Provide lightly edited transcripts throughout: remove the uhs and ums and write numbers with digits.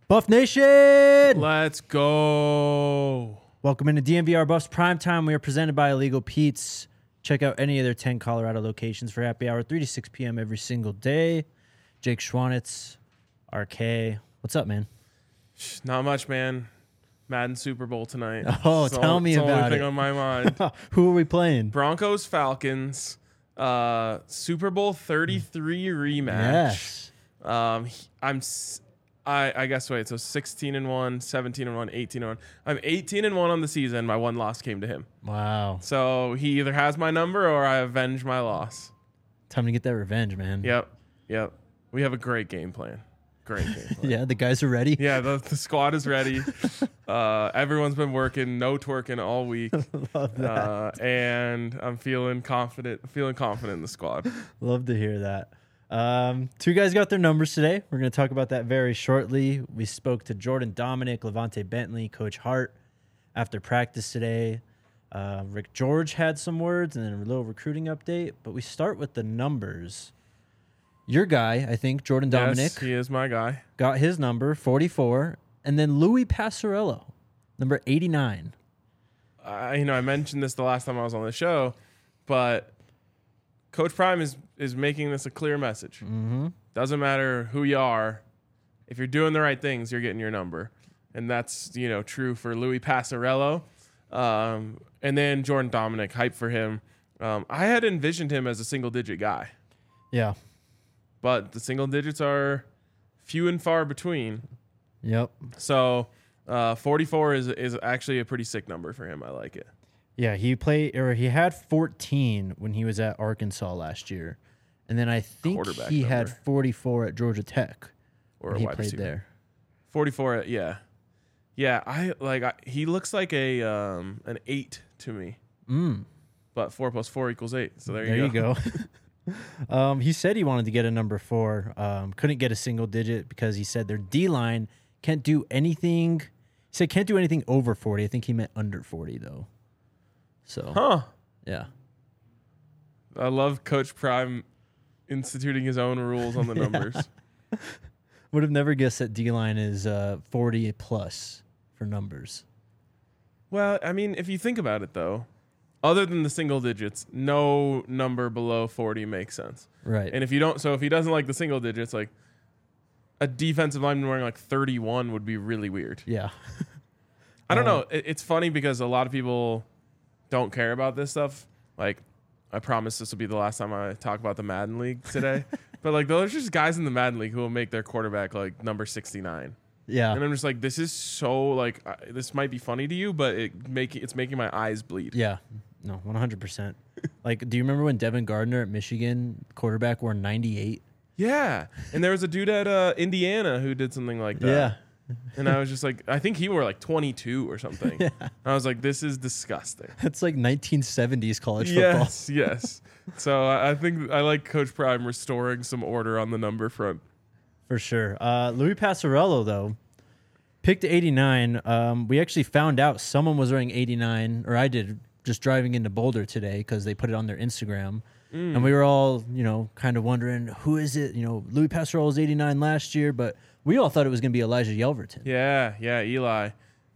Buff Nation! Let's go. Welcome into DMVR Buffs Primetime. We are presented by Illegal Pete's. Check out any of their 10 Colorado locations for happy hour, 3 to 6 p.m. every single day. Jake Schwanitz, RK. What's up, man? Not much, man. Madden Super Bowl tonight. Oh, tell me about it. It's the only it. thing on my mind. Who are we playing? Broncos, Falcons, Super Bowl 33 rematch. Yes. I guess, wait, so 16-1, 17-1, 18-1. I'm 18-1 on the season. My one loss came to him. Wow. So he either has my number or I avenge my loss. Time to get that revenge, man. Yep. We have a great game plan. Yeah, the guys are ready. Yeah, the squad is ready. Everyone's been working, no twerking all week. Love that. And I'm feeling confident in the squad. Love to hear that. Two guys got their numbers today. We're going to talk about that very shortly. We spoke to Jordan Dominic, Levante Bentley, Coach Hart after practice today. Rick George had some words and then a little recruiting update. But we start with the numbers. Your guy, I think, Jordan Dominic. Yes, he is my guy. Got his number, 44. And then Louis Passarello, number 89. I mentioned this the last time I was on the show, but Coach Prime is making this a clear message. Mm-hmm. Doesn't matter who you are. If you're doing the right things, you're getting your number. And that's, true for Louis Passarello. And then Jordan Dominic, hype for him. I had envisioned him as a single-digit guy. Yeah. But the single digits are few and far between. Yep. So 44 is actually a pretty sick number for him. I like it. Yeah, he had 14 when he was at Arkansas last year. And then I think he had 44 at Georgia Tech. Or he wide played receiver. there. 44, yeah. Yeah, he looks like an 8 to me. But 4 plus 4 equals 8. So there you go. He said he wanted to get a number 4. Couldn't get a single digit because he said their D-line can't do anything. He said can't do anything over 40. I think he meant under 40, though. So, yeah. I love Coach Prime instituting his own rules on the numbers. Would have never guessed that D-line is 40 plus for numbers. Well, I mean, if you think about it, though, other than the single digits, no number below 40 makes sense. Right. And if he doesn't like the single digits, like a defensive lineman wearing like 31 would be really weird. Yeah. I don't know. It's funny because a lot of people don't care about this stuff. Like, I promise this will be the last time I talk about the Madden League today. But like, those are just guys in the Madden League who will make their quarterback like number 69. Yeah. And I'm just like, this is so like, this might be funny to you, but it's making my eyes bleed. Yeah. No, 100%. Like, do you remember when Devin Gardner at Michigan, quarterback, wore 98? Yeah. And there was a dude at Indiana who did something like that. Yeah. And I was just like, I think he wore like 22 or something. Yeah. I was like, this is disgusting. That's like 1970s college football. Yes. So I think I like Coach Prime restoring some order on the number front. For sure. Louis Passarello, though, picked 89. We actually found out someone was wearing 89, or I did, just driving into Boulder today because they put it on their Instagram. And we were all, kind of wondering, who is it? Louis Passarello was 89 last year, but we all thought it was going to be Elijah Yelverton. Yeah, Eli.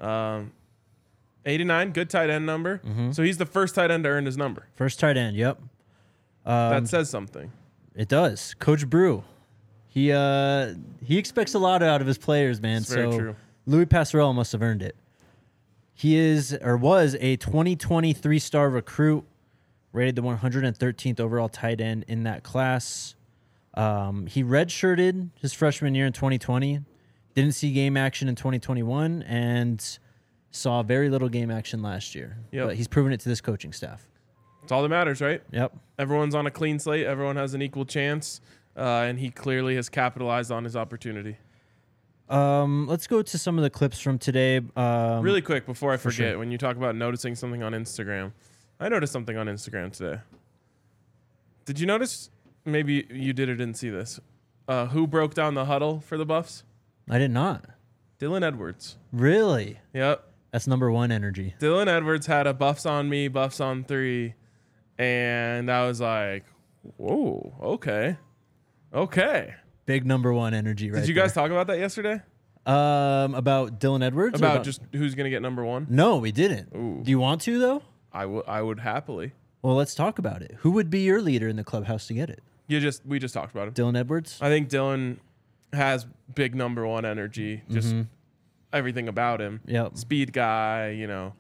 89, good tight end number. Mm-hmm. So he's the first tight end to earn his number. First tight end, yep. That says something. It does. Coach Brew, he expects a lot out of his players, man. It's very true. Louis Passarello must have earned it. He was a 2020 3-star recruit, rated the 113th overall tight end in that class. He redshirted his freshman year in 2020, didn't see game action in 2021, and saw very little game action last year. Yep. But he's proven it to this coaching staff. It's all that matters, right? Yep. Everyone's on a clean slate. Everyone has an equal chance. And he clearly has capitalized on his opportunity. Let's go to some of the clips from today. Really quick before I forget, sure. when you talk about noticing something on Instagram, I noticed something on Instagram today. Did you notice? Maybe you did or didn't see this. Who broke down the huddle for the Buffs? I did not. Dylan Edwards. Really? Yep. That's number 1 energy. Dylan Edwards had a buffs on me, buffs on 3. And I was like, whoa, okay. Big number 1 energy right Did you guys talk about that yesterday? About Dylan Edwards? Or About just who's going to get number one? No, we didn't. Ooh. Do you want to, though? I would happily. Well, let's talk about it. Who would be your leader in the clubhouse to get it? We just talked about him. Dylan Edwards? I think Dylan has big number one energy, just everything about him. Yep. Speed guy, you know.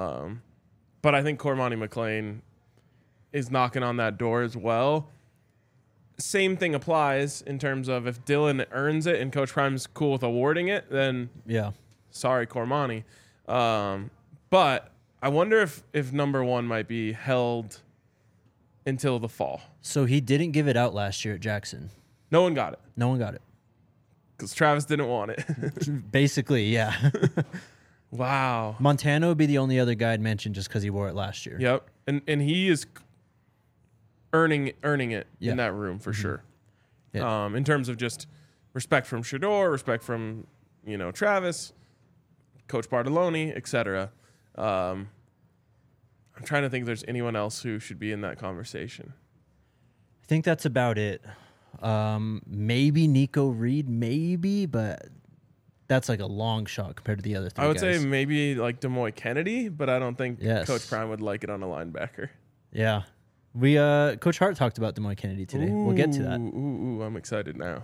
But I think Cormani McClain is knocking on that door as well. Same thing applies in terms of if Dylan earns it and Coach Prime's cool with awarding it, then sorry, Cormani. But I wonder if number one might be held until the fall. So he didn't give it out last year at Jackson. No one got it. No one got it. Because Travis didn't want it. Basically, yeah. Wow. Montano would be the only other guy I'd mention just because he wore it last year. Yep. And he is earning it in that room for sure. Yeah. In terms of just respect from Shedeur, respect from, Travis, Coach Bartoloni, etc. I'm trying to think if there's anyone else who should be in that conversation. I think that's about it. Maybe Nico Reed, maybe, but that's like a long shot compared to the other three I would guys. say maybe like Demoy Kennedy, but I don't think Yes. Coach Prime would like it on a linebacker. Yeah. We Coach Hart talked about Demoy Kennedy today. We'll get to that. Ooh, I'm excited now.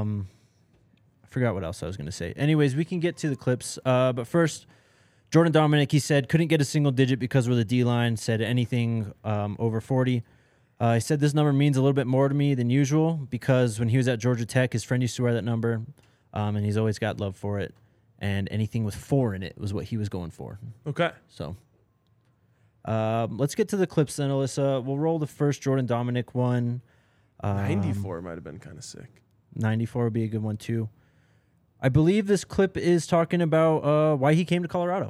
I forgot what else I was going to say. Anyways, we can get to the clips. But first, Jordan Dominic, he said, couldn't get a single digit because we're the D-line, said anything over 40. He said this number means a little bit more to me than usual because when he was at Georgia Tech, his friend used to wear that number, and he's always got love for it. And anything with 4 in it was what he was going for. Okay. So let's get to the clips then, Alyssa. We'll roll the first Jordan Dominic one. 94 might have been kind of sick. 94 would be a good one, too. I believe this clip is talking about why he came to Colorado.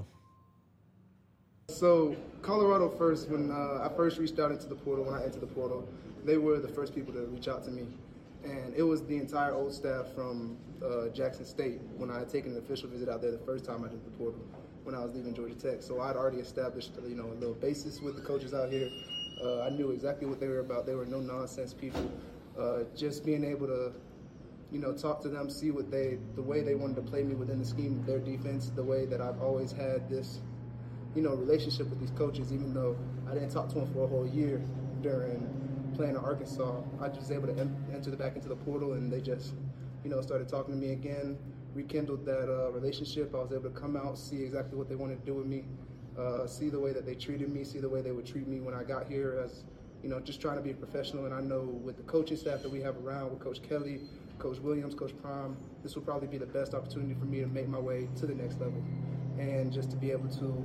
So Colorado first, when I first reached out into the portal, when I entered the portal, they were the first people to reach out to me. And it was the entire old staff from Jackson State when I had taken an official visit out there the first time I did the portal when I was leaving Georgia Tech. So I'd already established a little basis with the coaches out here. I knew exactly what they were about. They were no-nonsense people. Just being able to talk to them, see what the way they wanted to play me within the scheme of their defense, the way that I've always had this, relationship with these coaches, even though I didn't talk to them for a whole year during playing in Arkansas. I was able to enter back into the portal, and they just, started talking to me again, rekindled that relationship. I was able to come out, see exactly what they wanted to do with me, see the way that they treated me, see the way they would treat me when I got here as, just trying to be a professional. And I know with the coaching staff that we have around, with Coach Kelly, Coach Williams, Coach Prime, this will probably be the best opportunity for me to make my way to the next level and just to be able to,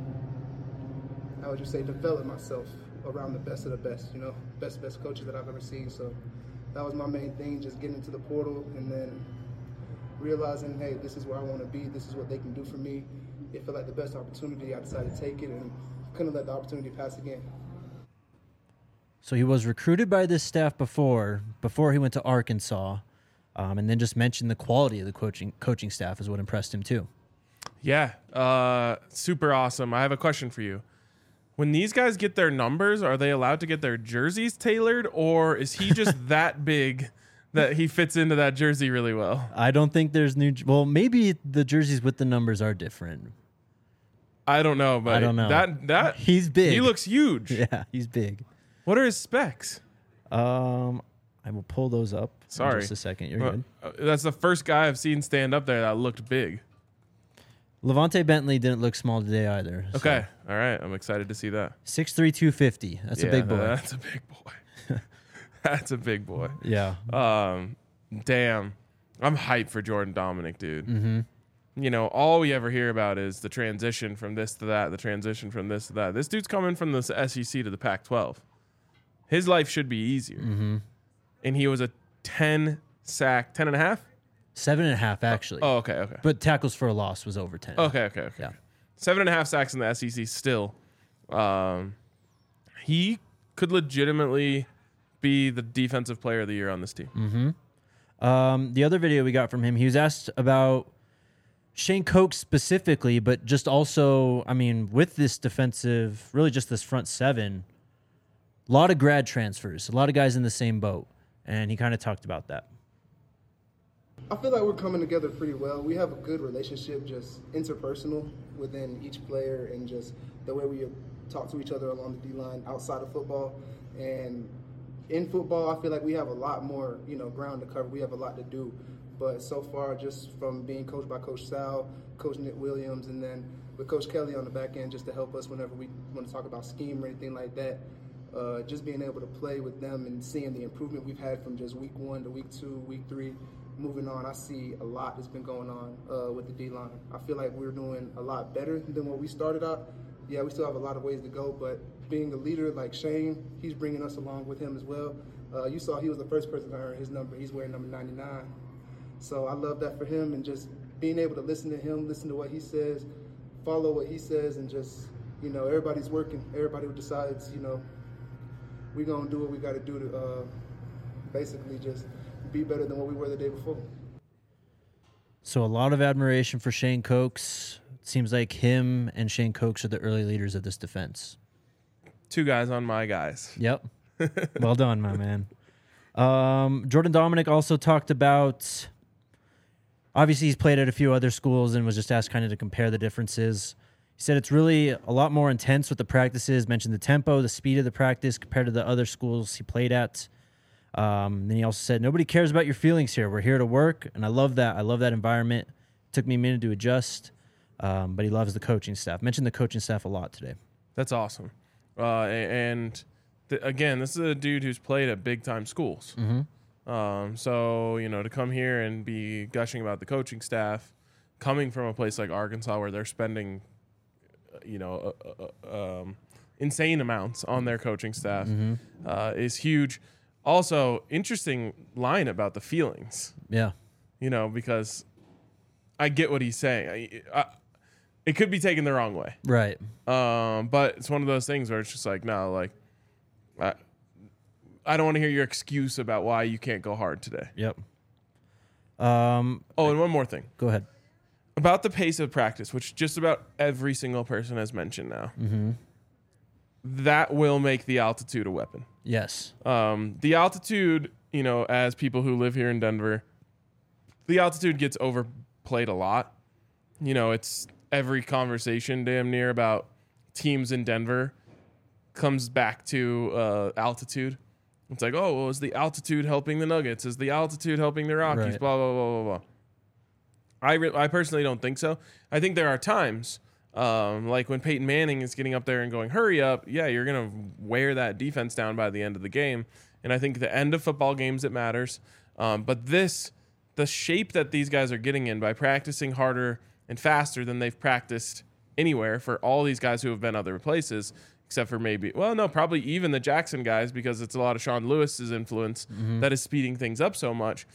I would just say, develop myself around the best of the best, best coaches that I've ever seen. So that was my main thing, just getting into the portal and then realizing, hey, this is where I want to be. This is what they can do for me. It felt like the best opportunity. I decided to take it and couldn't let the opportunity pass again. So he was recruited by this staff before he went to Arkansas, and then just mentioned the quality of the coaching staff is what impressed him too. Yeah, super awesome. I have a question for you. When these guys get their numbers, are they allowed to get their jerseys tailored, or is he just that big that he fits into that jersey really well? I don't think there's maybe the jerseys with the numbers are different. I don't know, but I don't know. That he's big. He looks huge. Yeah, he's big. What are his specs? I will pull those up. Sorry. In just a second. You're good. That's the first guy I've seen stand up there that looked big. Levante Bentley didn't look small today either. So. Okay. All right. I'm excited to see that. 6'3", 250. That's a big boy. That's a big boy. That's a big boy. Yeah. Damn. I'm hyped for Jordan Dominic, dude. Mm-hmm. All we ever hear about is the transition from this to that, the transition from this to that. This dude's coming from the SEC to the Pac-12. His life should be easier. Mm-hmm. And he was a 10 and a half? 7.5, actually. Oh, okay. But tackles for a loss was over 10. Okay. Yeah. 7.5 sacks in the SEC still. He could legitimately be the defensive player of the year on this team. Mm-hmm. The other video we got from him, he was asked about Shane Koch specifically, but just also, with this defensive, really just this front seven, a lot of grad transfers, a lot of guys in the same boat. And he kind of talked about that. I feel like we're coming together pretty well. We have a good relationship, just interpersonal within each player, and just the way we talk to each other along the D-line outside of football. And in football, I feel like we have a lot more, ground to cover. We have a lot to do. But so far, just from being coached by Coach Sal, Coach Nick Williams, and then with Coach Kelly on the back end just to help us whenever we want to talk about scheme or anything like that, just being able to play with them and seeing the improvement we've had from just week 1 to week 2, week 3, moving on, I see a lot that's been going on with the D-line. I feel like we're doing a lot better than when we started out. Yeah, we still have a lot of ways to go, but being a leader like Shane, he's bringing us along with him as well. You saw he was the first person to earn his number. He's wearing number 99. So I love that for him, and just being able to listen to him, listen to what he says, follow what he says, and just, everybody's working. Everybody who decides, we're going to do what we got to do to basically just be better than what we were the day before. So a lot of admiration for Shane Cokes. It seems like him and Shane Cokes are the early leaders of this defense. 2 guys on my guys. Yep. Well done, my man. Jordan Dominic also talked about, obviously he's played at a few other schools and was just asked kind of to compare the differences. He said it's really a lot more intense with the practices, mentioned the tempo, the speed of the practice compared to the other schools he played at. Then he also said, nobody cares about your feelings here. We're here to work, and I love that. I love that environment. It took me a minute to adjust, but he loves the coaching staff. Mentioned the coaching staff a lot today. That's awesome. Again, this is a dude who's played at big-time schools. Mm-hmm. So, to come here and be gushing about the coaching staff, coming from a place like Arkansas where they're spending, insane amounts on their coaching staff is huge. Also, interesting line about the feelings. Yeah. Because I get what he's saying. It could be taken the wrong way. Right. But it's one of those things where it's just like, no, like, I don't want to hear your excuse about why you can't go hard today. Yep. And one more thing. Go ahead. About the pace of practice, which just about every single person has mentioned now. Mm-hmm. That will make the altitude a weapon. Yes. The altitude, as people who live here in Denver, the altitude gets overplayed a lot. It's every conversation damn near about teams in Denver comes back to altitude. It's like, oh, well, is the altitude helping the Nuggets? Is the altitude helping the Rockies? Right. Blah, blah, blah, blah, blah. I personally don't think so. I think there are times, like when Peyton Manning is getting up there and going, hurry up. Yeah, you're going to wear that defense down by the end of the game. And I think the end of football games, it matters. But the shape that these guys are getting in by practicing harder and faster than they've practiced anywhere for all these guys who have been other places, except for probably even the Jackson guys, because it's a lot of Sean Lewis's influence that is speeding things up so much.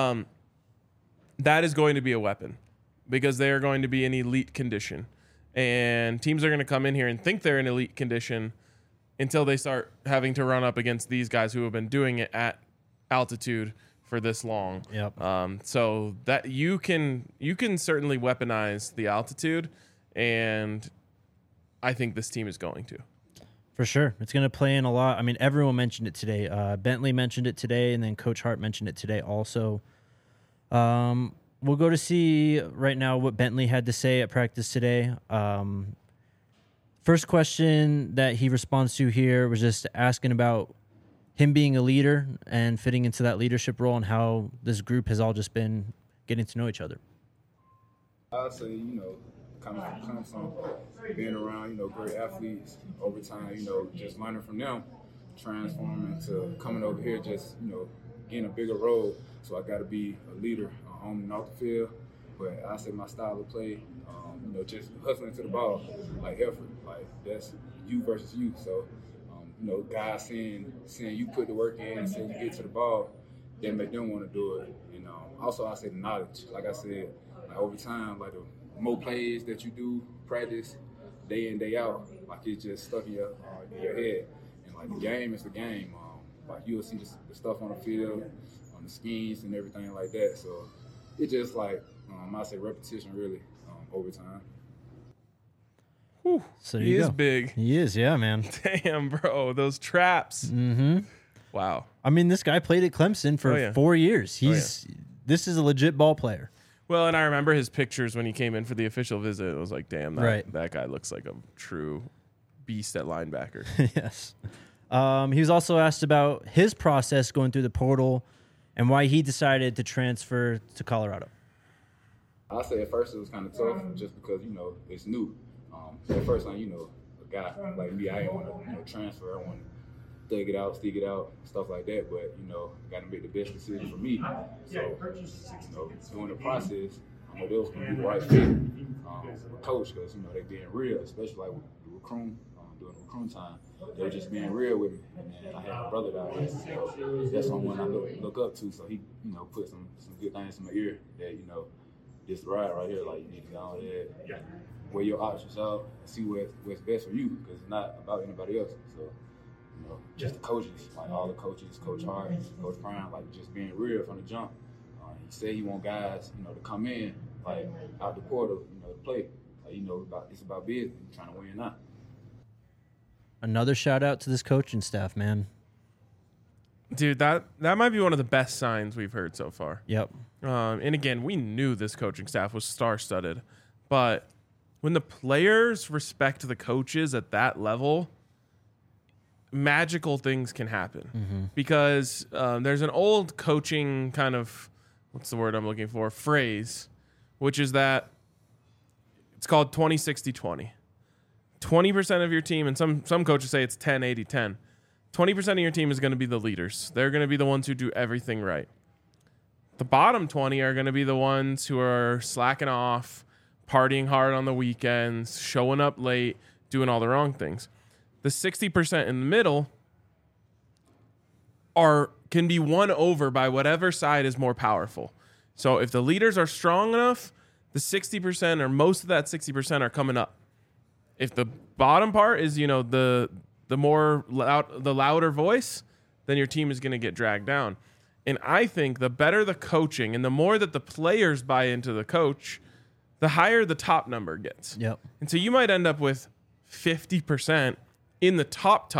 That is going to be a weapon because they are going to be in elite condition. And teams are going to come in here and think they're in elite condition until they start having to run up against these guys who have been doing it at altitude for this long. Yep. So that you can certainly weaponize the altitude, and I think this team is going to. For sure. It's going to play in a lot. I mean, everyone mentioned it today. Bentley mentioned it today, and then Coach Hart mentioned it today also. We'll go to see right now what Bentley had to say at practice today. First question that he responds to here was just asking about him being a leader and fitting into that leadership role and how this group has all just been getting to know each other. I'd say, coming from Clemson, being around, great athletes over time, just learning from them, transforming to coming over here, just, getting a bigger role. So I got to be a leader on and off the field. But I say my style of play, just hustling to the ball, like effort, like that's you versus you. So, guys seeing you put the work in and seeing you get to the ball, that make them want to do it. And also I say the knowledge. Like I said, like over time, like the more plays that you do practice day in, day out, like it's just stuck in your head. And like the game is the game. Like you'll see the stuff on the field, on the schemes and everything like that. So it's just like I say repetition really over time. Whew. So he is big. He is, yeah, man. Damn, bro, those traps. Mm-hmm. Wow. I mean, this guy played at Clemson for 4 years. this is a legit ball player. Well, and I remember his pictures when he came in for the official visit. It was like, damn, that guy looks like a true beast at linebacker. Yes. He was also asked about his process going through the portal and why he decided to transfer to Colorado. I'll say at first it was kind of tough just because, it's new. At first, a guy like me, I didn't want to, transfer. I want to stick it out, stuff like that. But, I got to make the best decision for me. So, during the process, I know they was going to be the right fit with coach because, they being real, especially like with the recruiting, during the recruiting time. They were just being real with me. And I had my brother down there. So that's someone I look up to. So he, put some good things in my ear that, this ride right here, like you need to go on there, weigh your options out, see what's best for you, because it's not about anybody else. So, just the coaches, like all the coaches, Coach Hart, Coach Prime, like just being real from the jump. He said he want guys, to come in, like out the portal, to play. Like, it's about business, trying to win now. Another shout out to this coaching staff, man. Dude, that might be one of the best signs we've heard so far. Yep. And again, we knew this coaching staff was star-studded, but when the players respect the coaches at that level, magical things can happen. Because there's an old coaching kind of, what's the word I'm looking for, phrase, which is that it's called 20-60-20. 20% of your team, and some coaches say it's 10-80-10. 20% of your team is going to be the leaders. They're going to be the ones who do everything right. The bottom 20 are going to be the ones who are slacking off, partying hard on the weekends, showing up late, doing all the wrong things. The 60% in the middle can be won over by whatever side is more powerful. So if the leaders are strong enough, the 60% or most of that 60% are coming up. If the bottom part is, the more the louder voice, then your team is going to get dragged down. And I think the better the coaching and the more that the players buy into the coach, the higher the top number gets. Yep. And so you might end up with 50% in the top,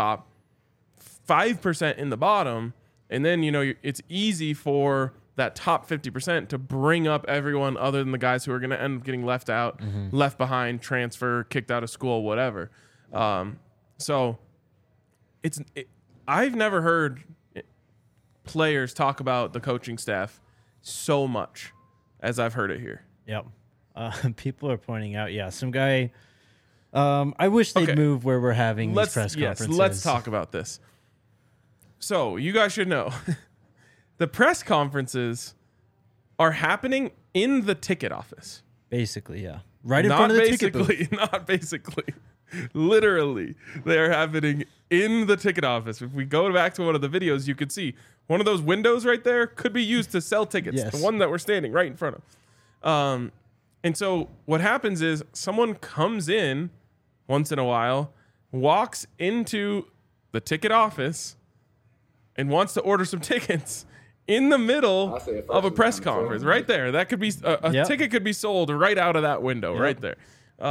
5% in the bottom. And then, it's easy for that top 50% to bring up everyone other than the guys who are going to end up getting left out, left behind, transfer, kicked out of school, whatever. So I've never heard players talk about the coaching staff so much as I've heard it here. Yep. People are pointing out, some guy. I wish they'd move where we're having these press conferences. Yes, let's talk about this. So you guys should know, the press conferences are happening in the ticket office. Basically, yeah. Right in front of the ticket booth. Not basically. Literally, they are happening in the ticket office. If we go back to one of the videos, you could see one of those windows right there could be used to sell tickets. Yes. The one that we're standing right in front of. And so what happens is someone comes in once in a while, walks into the ticket office, and wants to order some tickets in the middle of a press conference. Right there. That could be a ticket could be sold right out of that window right there.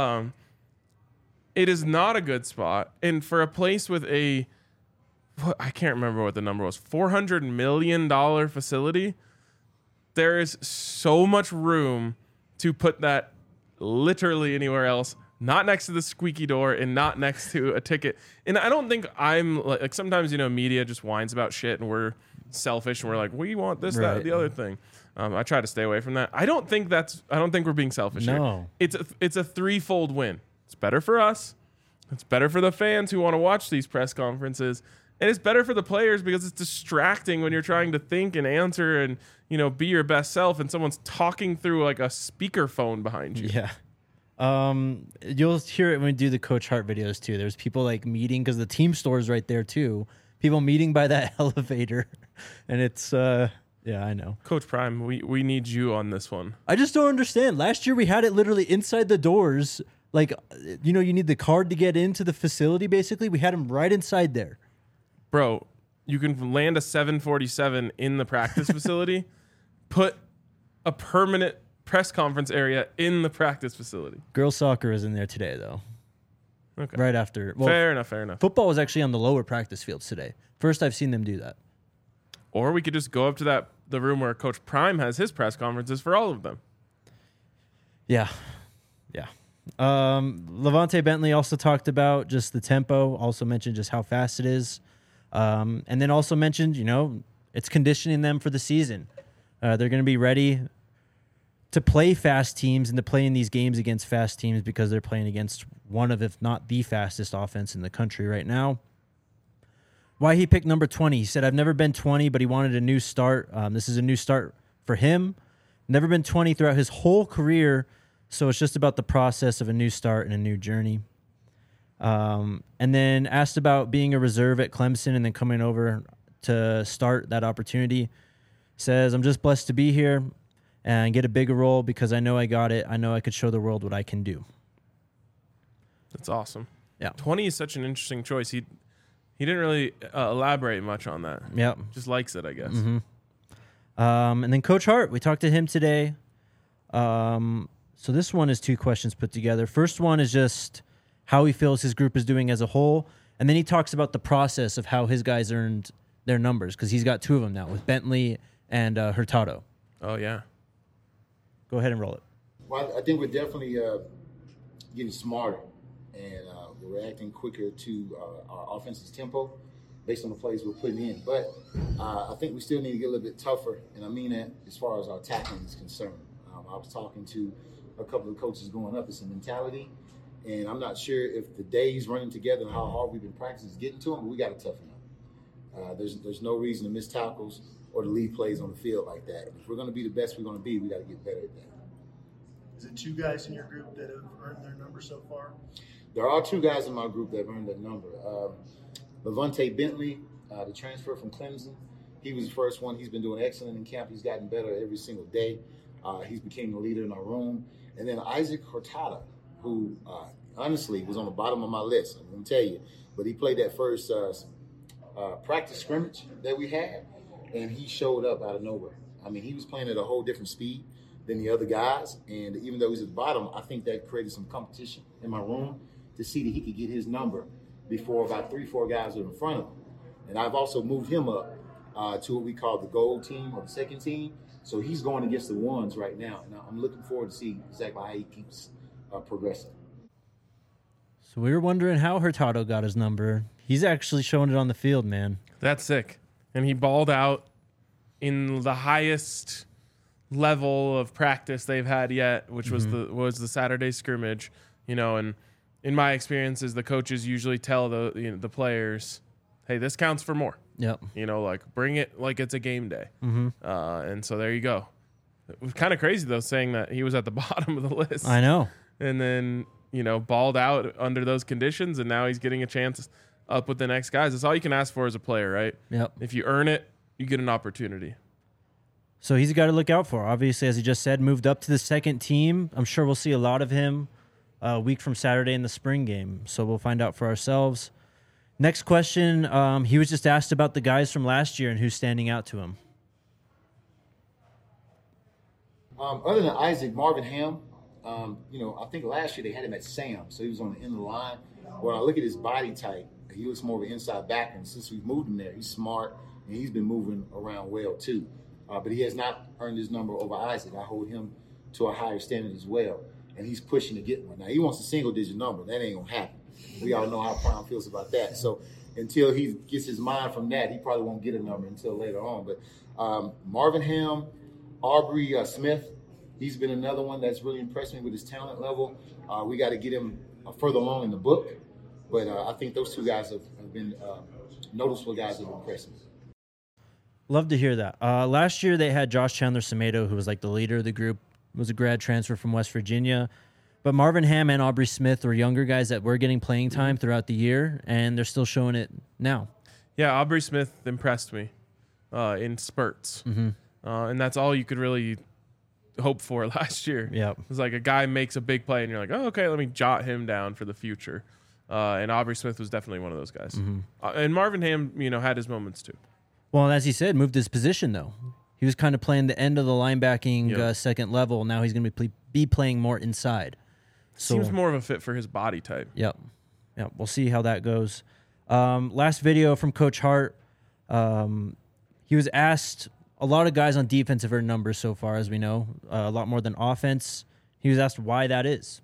It is not a good spot. And for a place with I can't remember what the number was, $400 million facility, there is so much room to put that literally anywhere else, not next to the squeaky door and not next to a ticket. And I don't think I'm like sometimes, media just whines about shit and we're selfish and we're like, we want this, that, the other thing. I try to stay away from that. I don't think we're being selfish here. It's a threefold win. It's better for us. It's better for the fans who want to watch these press conferences. And it's better for the players because it's distracting when you're trying to think and answer and, be your best self and someone's talking through like a speakerphone behind you. Yeah. You'll hear it when we do the Coach Hart videos too. There's people like meeting because the team store is right there too. People meeting by that elevator. And it's, I know. Coach Prime, we need you on this one. I just don't understand. Last year we had it literally inside the doors. Like, you need the card to get into the facility, basically. We had him right inside there. Bro, you can land a 747 in the practice facility, put a permanent press conference area in the practice facility. Girls soccer is in there today, though. Okay. Right after. Well, fair enough. Football was actually on the lower practice fields today. First I've seen them do that. Or we could just go up to the room where Coach Prime has his press conferences for all of them. Yeah. Levante Bentley also talked about just the tempo, also mentioned just how fast it is. And then also mentioned, it's conditioning them for the season. They're going to be ready to play fast teams and to play in these games against fast teams because they're playing against one of, if not the fastest offense in the country right now. Why he picked number 20. He said, I've never been 20, but he wanted a new start. This is a new start for him. Never been 20 throughout his whole career, so it's just about the process of a new start and a new journey. And then asked about being a reserve at Clemson and then coming over to start that opportunity. Says, I'm just blessed to be here and get a bigger role because I know I got it. I know I could show the world what I can do. That's awesome. Yeah. 20 is such an interesting choice. He didn't really elaborate much on that. Yep. Just likes it, I guess. Mm-hmm. And then Coach Hart, we talked to him today. So this one is 2 questions put together. First one is just how he feels his group is doing as a whole. And then he talks about the process of how his guys earned their numbers because he's got 2 of them now with Bentley and Hurtado. Oh, yeah. Go ahead and roll it. Well, I think we're definitely getting smarter and we're reacting quicker to our offensive tempo based on the plays we're putting in. But I think we still need to get a little bit tougher, and I mean that as far as our tackling is concerned. I was talking to a couple of coaches going up. It's a mentality, and I'm not sure if the days running together and how hard we've been practicing is getting to them, but we got to toughen up. There's no reason to miss tackles or to leave plays on the field like that. If we're going to be the best we're going to be, we got to get better at that. Is it 2 guys in your group that have earned their number so far? There are 2 guys in my group that have earned that number. Levante Bentley, the transfer from Clemson, he was the first one. He's been doing excellent in camp. He's gotten better every single day. He's became the leader in our room. And then Isaac Hurtado, who honestly was on the bottom of my list, I'm going to tell you. But he played that first practice scrimmage that we had, and he showed up out of nowhere. I mean, he was playing at a whole different speed than the other guys. And even though he's at the bottom, I think that created some competition in my room to see that he could get his number before about 3-4 guys are in front of him. And I've also moved him up to what we call the gold team or the second team. So he's going against the ones right now. And I'm looking forward to see exactly how he keeps progressing. So we were wondering how Hurtado got his number. He's actually showing it on the field, man. That's sick. And he balled out in the highest level of practice they've had yet, which was the Saturday scrimmage. And in my experiences, the coaches usually tell the players, hey, this counts for more. Yep. Bring it like it's a game day. Mm-hmm. And so there you go. It was kind of crazy, though, saying that he was at the bottom of the list. I know. And then, balled out under those conditions, and now he's getting a chance up with the next guys. That's all you can ask for as a player, right? Yep. If you earn it, you get an opportunity. So he's a guy to look out for. Obviously, as he just said, moved up to the second team. I'm sure we'll see a lot of him a week from Saturday in the spring game. So we'll find out for ourselves. Next question. He was just asked about the guys from last year and who's standing out to him. Other than Isaac, Marvin Ham, I think last year they had him at Sam, so he was on the end of the line. When I look at his body type, he looks more of an inside back, and since we've moved him there, he's smart, and he's been moving around well too. But he has not earned his number over Isaac. I hold him to a higher standard as well, and he's pushing to get one. Now, he wants a single-digit number. That ain't going to happen. We all know how Prime feels about that. So until he gets his mind from that, he probably won't get a number until later on. But Marvin Ham, Aubrey Smith, he's been another one that's really impressed me with his talent level. We got to get him further along in the book. But I think those 2 guys have been noticeable guys that have impressed me. Love to hear that. Last year they had Josh Chandler-Semedo, who was like the leader of the group, was a grad transfer from West Virginia. But Marvin Ham and Aubrey Smith were younger guys that were getting playing time throughout the year, and they're still showing it now. Yeah, Aubrey Smith impressed me in spurts. Mm-hmm. And that's all you could really hope for last year. Yep. It was like a guy makes a big play, and you're like, oh, okay, let me jot him down for the future. And Aubrey Smith was definitely one of those guys. Mm-hmm. And Marvin Ham, had his moments too. Well, as he said, moved his position, though. He was kind of playing the end of the linebacking second level. Now he's going to be playing more inside. So, seems more of a fit for his body type. Yep. We'll see how that goes. Last video from Coach Hart. he was asked, a lot of guys on defense have earned numbers so far, as we know, a lot more than offense. He was asked why that is.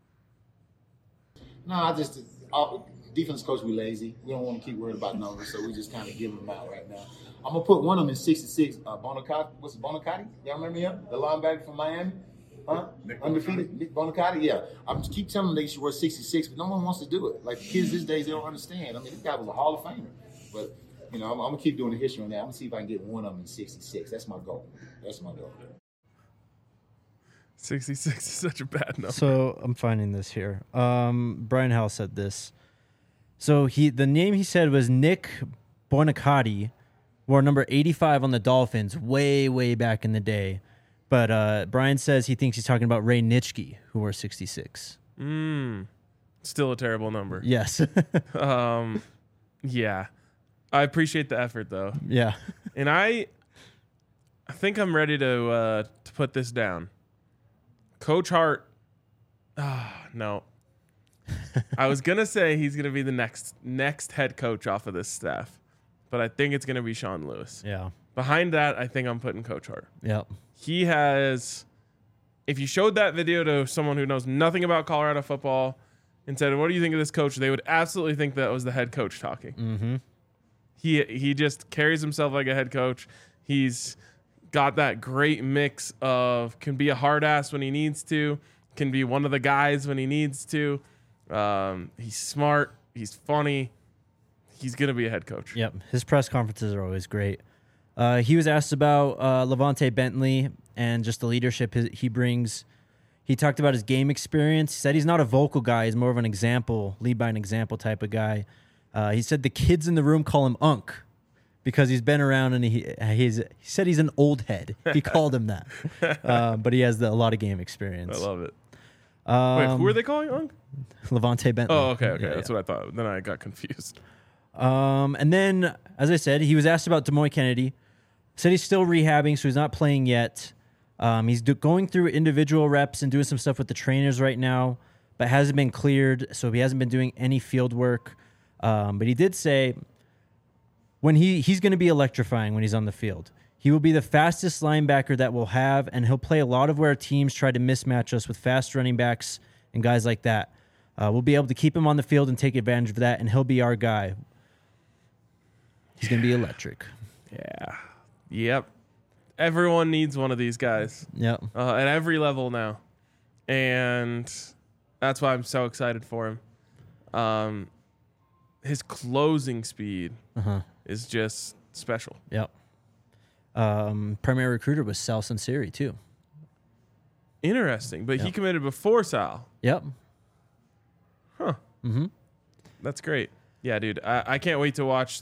No, defense coach, we lazy. We don't want to keep worried about numbers, so we just kind of give them out right now. I'm going to put one of them in 66. Bonacati. What's it, Bonacati? Y'all remember him? The linebacker from Miami? Huh? Undefeated? Nick Bonacati? Yeah. I keep telling them they should wear 66, but no one wants to do it. Like, kids these days, they don't understand. I mean, this guy was a Hall of Famer. But, I'm going to keep doing the history on that. I'm going to see if I can get one of them in 66. That's my goal. 66 is such a bad number. So I'm finding this here. Brian Howell said this. So the name he said was Nick Bonacati, wore number 85 on the Dolphins way, way back in the day. But Brian says he thinks he's talking about Ray Nitschke, who wore 66. Still a terrible number. Yes. Yeah. I appreciate the effort, though. Yeah. And I think I'm ready to put this down. Coach Hart. No. I was going to say he's going to be the next head coach off of this staff, but I think it's going to be Sean Lewis. Yeah. Behind that, I think I'm putting Coach Hart. Yep. He has, if you showed that video to someone who knows nothing about Colorado football and said, what do you think of this coach? They would absolutely think that was the head coach talking. Mm-hmm. He just carries himself like a head coach. He's got that great mix of can be a hard ass when he needs to, can be one of the guys when he needs to. He's smart. He's funny. He's going to be a head coach. Yep. His press conferences are always great. He was asked about Levante Bentley and just the leadership he brings. He talked about his game experience. He said he's not a vocal guy. He's more of an example, lead by an example type of guy. He said the kids in the room call him Unc because he's been around and he said he's an old head. He called him that. But he has a lot of game experience. I love it. Wait, who are they calling Unc? Levante Bentley. Oh, okay. Yeah, That's what I thought. Then I got confused. And then, as I said, he was asked about Demoy Kennedy. Said he's still rehabbing, so he's not playing yet. He's going through individual reps and doing some stuff with the trainers right now, but hasn't been cleared, so he hasn't been doing any field work. But he did say when he's going to be electrifying when he's on the field. He will be the fastest linebacker that we'll have, and he'll play a lot of where teams try to mismatch us with fast running backs and guys like that. We'll be able to keep him on the field and take advantage of that, and he'll be our guy. He's going to be electric. Yeah. Yep. Everyone needs one of these guys. Yep. At every level now. And that's why I'm so excited for him. His closing speed is just special. Yep. Primary recruiter was Sal Sunseri, too. Interesting. But he committed before Sal. Yep. Huh. Mm-hmm. That's great. Yeah, dude. I can't wait to watch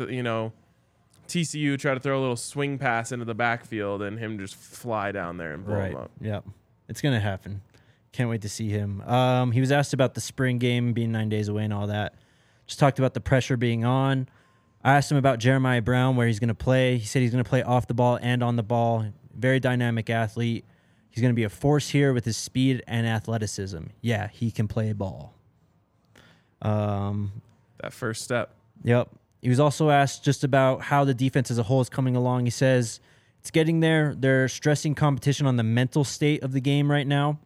TCU try to throw a little swing pass into the backfield and him just fly down there and blow him up. Yep. It's going to happen. Can't wait to see him. He was asked about the spring game being 9 days away and all that. Just talked about the pressure being on. I asked him about Jeremiah Brown, where he's going to play. He said he's going to play off the ball and on the ball. Very dynamic athlete. He's going to be a force here with his speed and athleticism. Yeah, he can play ball. That first step. Yep. He was also asked just about how the defense as a whole is coming along. He says it's getting there. They're stressing competition on the mental state of the game right now.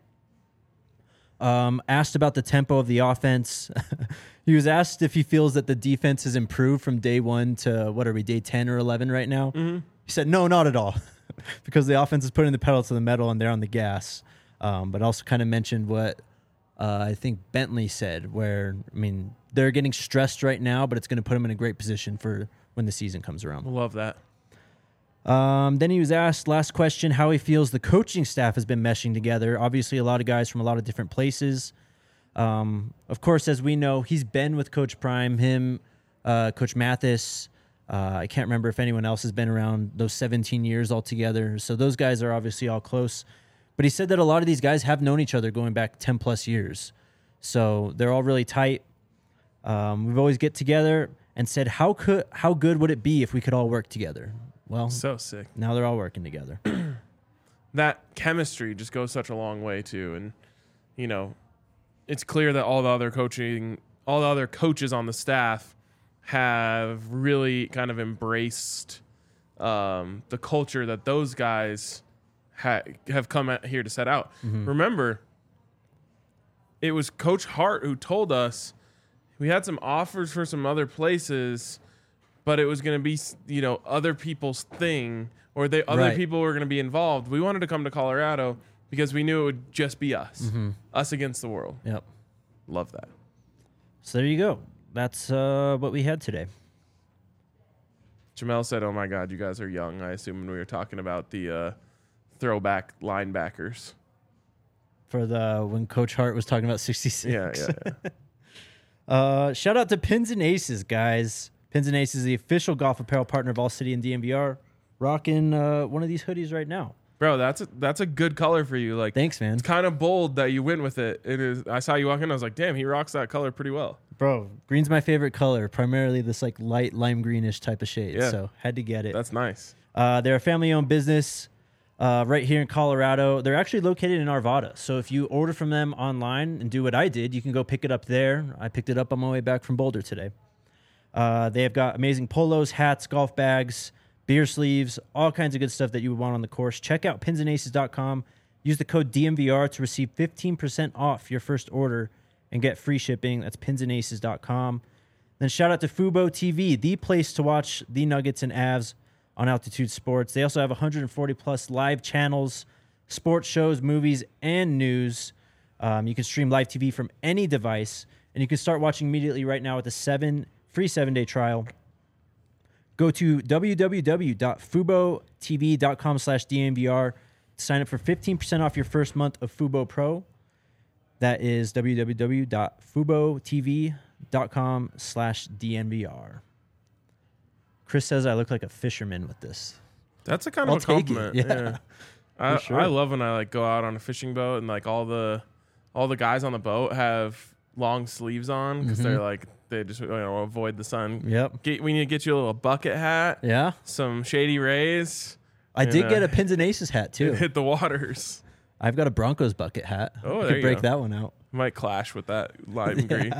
Asked about the tempo of the offense. He was asked if he feels that the defense has improved from day 1 to, day 10 or 11 right now. Mm-hmm. He said, no, not at all. Because the offense is putting the pedal to the metal and they're on the gas. But also kind of mentioned what I think Bentley said, where, they're getting stressed right now, but it's going to put them in a great position for when the season comes around. Love that. Then he was asked, last question, how he feels the coaching staff has been meshing together. Obviously, a lot of guys from a lot of different places. Of course, as we know, he's been with Coach Prime, him, Coach Mathis. I can't remember if anyone else has been around those 17 years altogether. So those guys are obviously all close. But he said that a lot of these guys have known each other going back 10 plus years. So they're all really tight. We've always get together and said, how good would it be if we could all work together? Well, so sick. Now they're all working together. That chemistry just goes such a long way too. And, it's clear that all the other coaches on the staff have really kind of embraced the culture that those guys have come here to set out. Remember, it was Coach Hart who told us we had some offers for some other places, but it was going to be, other people's thing, or other people were going to be involved. We wanted to come to Colorado because we knew it would just be us, us against the world. Yep. Love that. So there you go. That's what we had today. Jamel said, "Oh my God, you guys are young." I assume when we were talking about the throwback linebackers. For when Coach Hart was talking about 66. Yeah. Shout out to Pins and Aces, guys. Pins and Aces is the official golf apparel partner of All City and DNVR. Rocking one of these hoodies right now. Bro, that's a good color for you. Like, thanks, man. It's kind of bold that you went with it. It is. I saw you walk in. I was like, damn, he rocks that color pretty well. Bro, green's my favorite color. Primarily this like light lime greenish type of shade. Yeah. So had to get it. That's nice. They're a family-owned business right here in Colorado. They're actually located in Arvada. So if you order from them online and do what I did, you can go pick it up there. I picked it up on my way back from Boulder today. They have got amazing polos, hats, golf bags, beer sleeves, all kinds of good stuff that you would want on the course. Check out pinsandaces.com. Use the code DMVR to receive 15% off your first order and get free shipping. That's pinsandaces.com. Then shout out to Fubo TV, the place to watch the Nuggets and Avs on Altitude Sports. They also have 140 plus live channels, sports shows, movies, and news. You can stream live TV from any device, and you can start watching immediately right now with a free 7-day trial. Go to www.fubotv.com/DNVR to sign up for 15% off your first month of Fubo Pro. That is www.fubotv.com/DNVR. Chris says I look like a fisherman with this. That's a kind I'll of a take it, compliment. yeah. I love when I go out on a fishing boat and all the guys on the boat have long sleeves on because they just avoid the sun. Yep. We need to get you a little bucket hat. Yeah. Some Shady Rays. I did get a Pins and Aces hat too. Hit the waters. I've got a Broncos bucket hat. Oh, I there could you break go. that one out. Might clash with that lime green.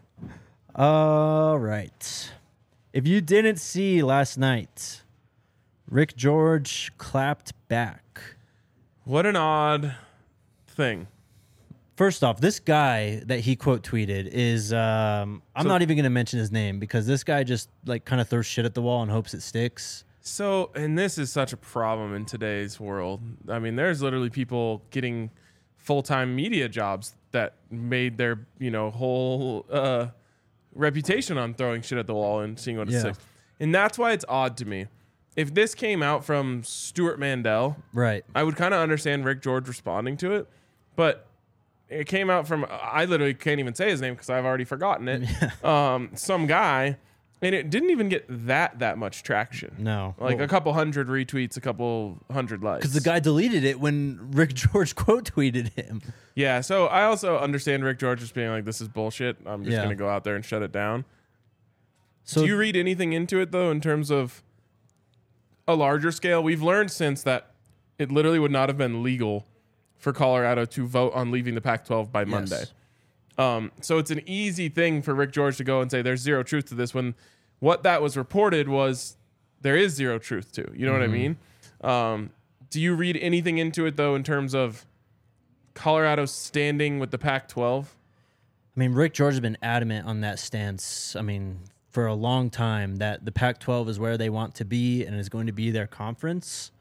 All right. If you didn't see last night, Rick George clapped back. What an odd thing. First off, this guy that he quote tweeted is I'm not even going to mention his name because this guy just kind of throws shit at the wall and hopes it sticks. So, and this is such a problem in today's world. I mean, there's literally people getting full-time media jobs that made their, whole reputation on throwing shit at the wall and seeing what it sticks. And that's why it's odd to me. If this came out from Stuart Mandel, right, I would kind of understand Rick George responding to it. But it came out from, I literally can't even say his name because I've already forgotten it. Some guy. And it didn't even get that much traction. No. A couple hundred retweets, a couple hundred likes. Because the guy deleted it when Rick George quote tweeted him. Yeah, so I also understand Rick George just being like, this is bullshit. I'm just going to go out there and shut it down. So do you read anything into it, though, in terms of a larger scale? We've learned since that it literally would not have been legal for Colorado to vote on leaving the Pac-12 by Monday. So it's an easy thing for Rick George to go and say there's zero truth to this when what that was reported was there is zero truth to. You know what I mean? Do you read anything into it, though, in terms of Colorado standing with the Pac-12? I mean, Rick George has been adamant on that stance. I mean, for a long time that the Pac-12 is where they want to be and is going to be their conference.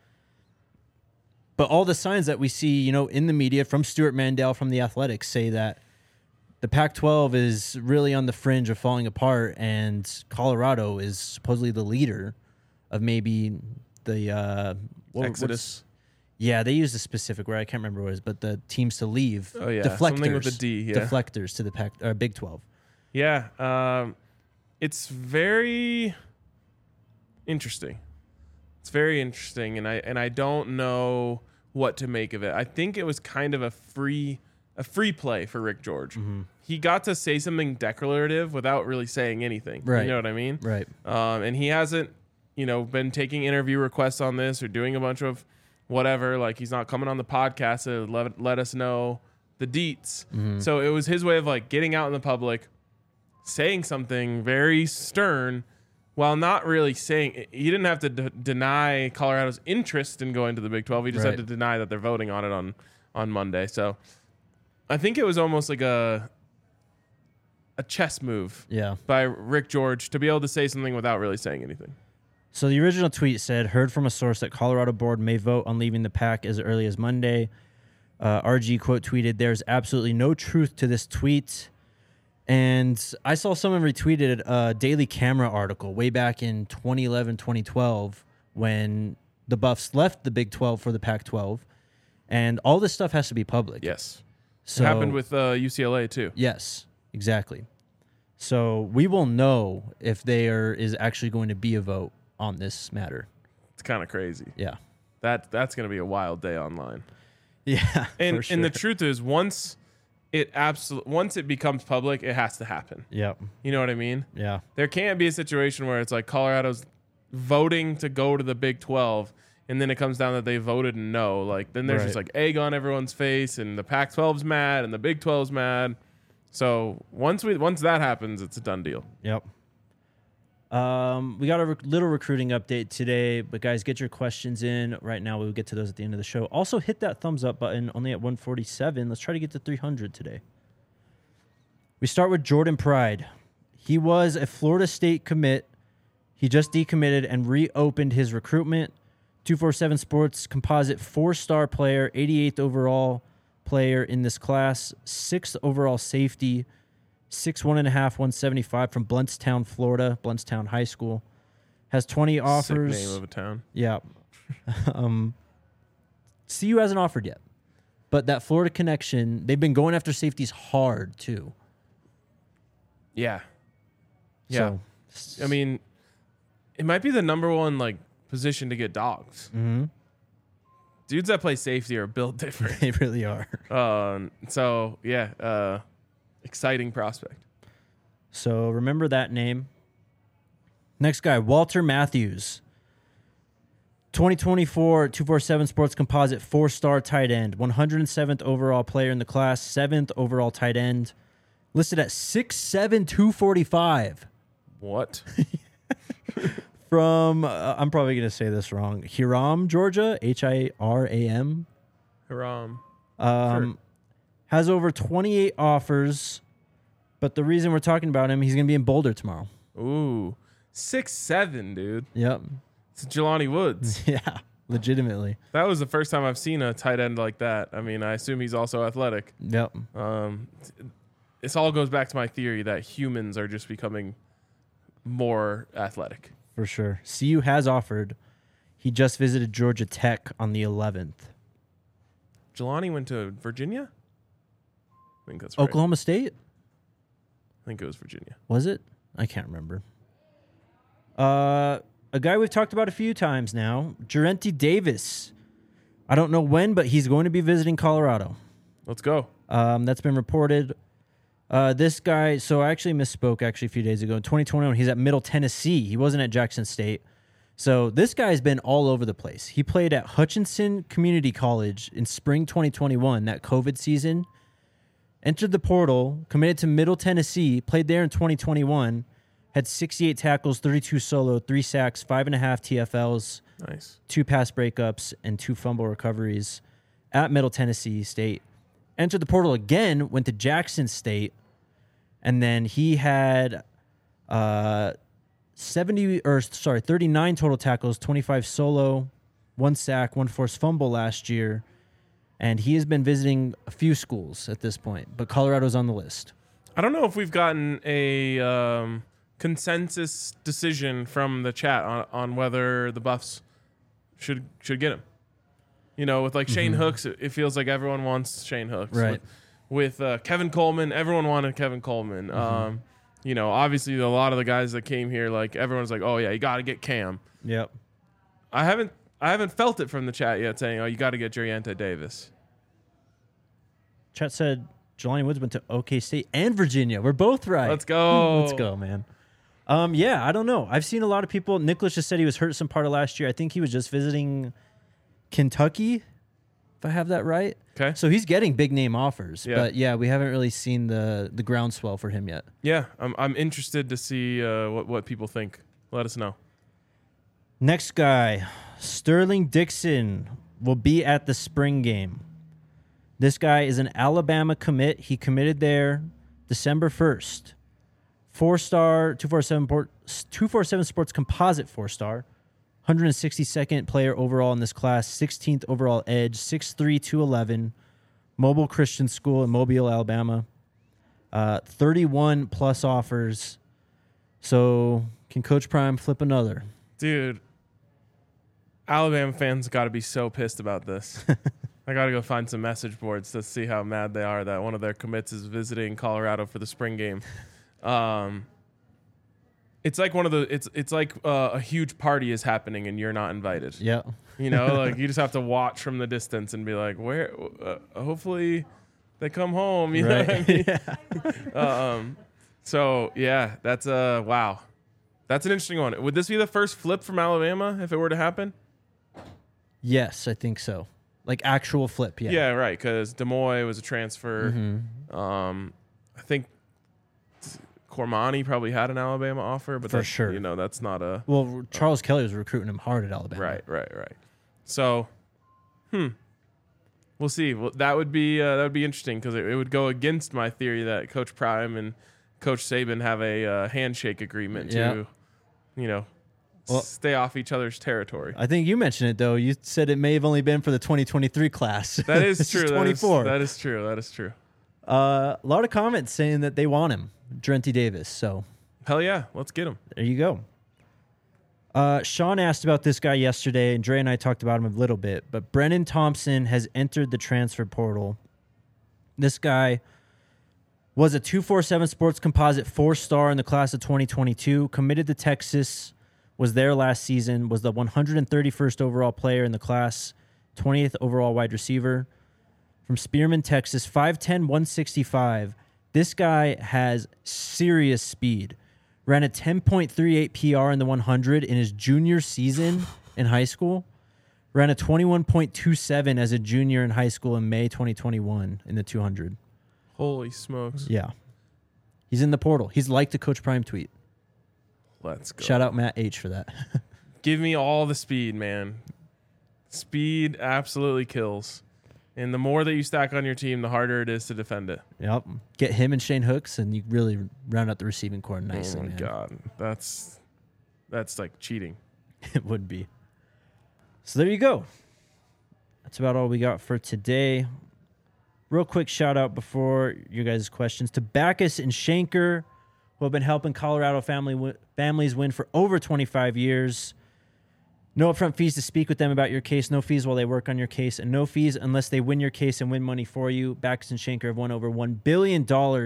But all the signs that we see, in the media from Stuart Mandel, from the Athletics, say that the Pac-12 is really on the fringe of falling apart, and Colorado is supposedly the leader of maybe the Exodus. Yeah, they used a specific word. I can't remember what it is, but the teams to leave. Oh, yeah. Deflectors. Something with a D, yeah. Deflectors to the Big 12. Yeah. It's very interesting. It's very interesting, and I don't know what to make of it. I think it was kind of a free play for Rick George. He got to say something declarative without really saying anything. Right. You know what I mean? Right. And he hasn't, been taking interview requests on this or doing a bunch of whatever. Like, he's not coming on the podcast to let us know the deets. So it was his way of getting out in the public, saying something very stern while not really saying he didn't have to deny Colorado's interest in going to the Big 12. He just had to deny that they're voting on it on Monday. So I think it was almost like a chess move by Rick George to be able to say something without really saying anything. So the original tweet said, heard from a source that Colorado board may vote on leaving the Pac as early as Monday. RG quote tweeted, there's absolutely no truth to this tweet. And I saw someone retweeted a Daily Camera article way back in 2011, 2012, when the Buffs left the Big 12 for the Pac-12. And all this stuff has to be public. Yes. So, it happened with UCLA too. Yes, exactly. So we will know if there is actually going to be a vote on this matter. It's kind of crazy. Yeah. That's going to be a wild day online. Yeah. And sure. and the truth is once it becomes public, it has to happen. Yep. You know what I mean? Yeah. There can't be a situation where it's like Colorado's voting to go to the Big 12 and then it comes down that they voted no. Like then there's just like egg on everyone's face and the Pac-12's mad and the Big 12's mad. So once that happens, it's a done deal. Yep. We got a little recruiting update today, but guys, get your questions in right now. We'll get to those at the end of the show. Also, hit that thumbs up button, only at 147. Let's try to get to 300 today. We start with Jordan Pride. He was a Florida State commit. He just decommitted and reopened his recruitment. 247 Sports composite 4-star player, 88th overall player in this class, 6th overall safety, 6'1.5", 175 from Bluntstown, Florida, Bluntstown High School. Has 20 offers. Sick name of a town. Yeah. CU hasn't offered yet. But that Florida connection, they've been going after safeties hard, too. Yeah. Yeah. So, I mean, it might be the number one position to get dogs. Mm-hmm. Dudes that play safety are built different. They really are. So, yeah. Exciting prospect. So remember that name. Next guy, Walter Matthews. 2024 247 Sports Composite 4-star tight end. 107th overall player in the class. 7th overall tight end. Listed at 6'7", 245. What? From, I'm probably going to say this wrong, Hiram, Georgia. Hiram. Hiram. Sure. Has over 28 offers, but the reason we're talking about him, he's going to be in Boulder tomorrow. Ooh, 6'7", dude. Yep. It's Jelani Woods. Yeah, legitimately. That was the first time I've seen a tight end like that. I mean, I assume he's also athletic. Yep. This all goes back to my theory that humans are just becoming more athletic. For sure. CU has offered. He just visited Georgia Tech on the 11th. Jelani went to Virginia? I think that's right. Oklahoma State? I think it was Virginia. Was it? I can't remember. A guy we've talked about a few times now, Jarenti Davis. I don't know when, but he's going to be visiting Colorado. Let's go. That's been reported. This guy, so I actually misspoke a few days ago. In 2021, he's at Middle Tennessee. He wasn't at Jackson State. So this guy's been all over the place. He played at Hutchinson Community College in spring 2021, that COVID season. Entered the portal, committed to Middle Tennessee, played there in 2021, had 68 tackles, 32 solo, 3 sacks, 5.5 TFLs, Nice. 2 pass breakups, and 2 fumble recoveries at Middle Tennessee State. Entered the portal again, went to Jackson State, and then he had 39 total tackles, 25 solo, 1 sack, 1 forced fumble last year. And he has been visiting a few schools at this point, but Colorado's on the list. I don't know if we've gotten a consensus decision from the chat on whether the Buffs should get him. You know, with Shane Hooks, it feels like everyone wants Shane Hooks. Right. With Kevin Coleman, everyone wanted Kevin Coleman. You know, obviously a lot of the guys that came here, everyone's like, oh yeah, you got to get Cam. Yep. I haven't felt it from the chat yet saying, oh, you got to get Jarenti Davis. Chat said Jelani Woods went to OK State and Virginia. We're both right. Let's go. Let's go, man. Yeah, I don't know. I've seen a lot of people. Nicholas just said he was hurt some part of last year. I think he was just visiting Kentucky, if I have that right. Okay. So he's getting big name offers. Yeah. But yeah, we haven't really seen the groundswell for him yet. Yeah, I'm interested to see what people think let us know. Next guy, Sterling Dixon, will be at the spring game. This guy is an Alabama commit. He committed there December 1st. 4-star, 247 Sports Composite 4-star. 162nd player overall in this class. 16th overall edge. 6'3", 211. Mobile Christian School in Mobile, Alabama. 31 plus offers. So can Coach Prime flip another? Dude, Alabama fans got to be so pissed about this. I got to go find some message boards to see how mad they are that one of their commits is visiting Colorado for the spring game. It's like it's like a huge party is happening and you're not invited. Yeah. You know, like you just have to watch from the distance and be like, where? Hopefully, they come home. You know what I mean? Yeah. So yeah, that's wow. That's an interesting one. Would this be the first flip from Alabama if it were to happen? Yes, I think so. Like actual flip, yeah. Yeah, right. Because Demoy was a transfer. I think Cormani probably had an Alabama offer, but For that's, sure. you know, that's not a Well, Charles Kelly was recruiting him hard at Alabama. right. So, we'll see. Well, that would be interesting because it would go against my theory that Coach Prime and Coach Saban have a handshake agreement to, you know, stay off each other's territory. I think you mentioned it, though. You said it may have only been for the 2023 class. That is This true. 24. That is true. A lot of comments saying that they want him, Drenti Davis. So Hell yeah, let's get him. there you go. Sean asked about this guy yesterday, and Dre and I talked about him a little bit. But Brennan Thompson has entered the transfer portal. This guy was a 247 Sports Composite 4-star in the class of 2022, committed to Texas, was there last season, was the 131st overall player in the class, 20th overall wide receiver. From Spearman, Texas, 5'10", 165. This guy has serious speed. Ran a 10.38 PR in the 100 in his junior season in high school. Ran a 21.27 as a junior in high school in May 2021 in the 200. Holy smokes. Yeah. He's in the portal. He's like the Coach Prime tweet. Let's go. Shout out Matt H for that. Give me all the speed, man. Speed absolutely kills. And the more that you stack on your team, the harder it is to defend it. Yep. Get him and Shane Hooks, and you really round out the receiving core nicely, oh my man. God. That's like cheating. It would be. So there you go. That's about all we got for today. Real quick shout out before you guys' questions to Backus and Shanker, who have been helping Colorado families win for over 25 years. No upfront fees to speak with them about your case. No fees while they work on your case. And no fees unless they win your case and win money for you. Backus and Shanker have won over $1 billion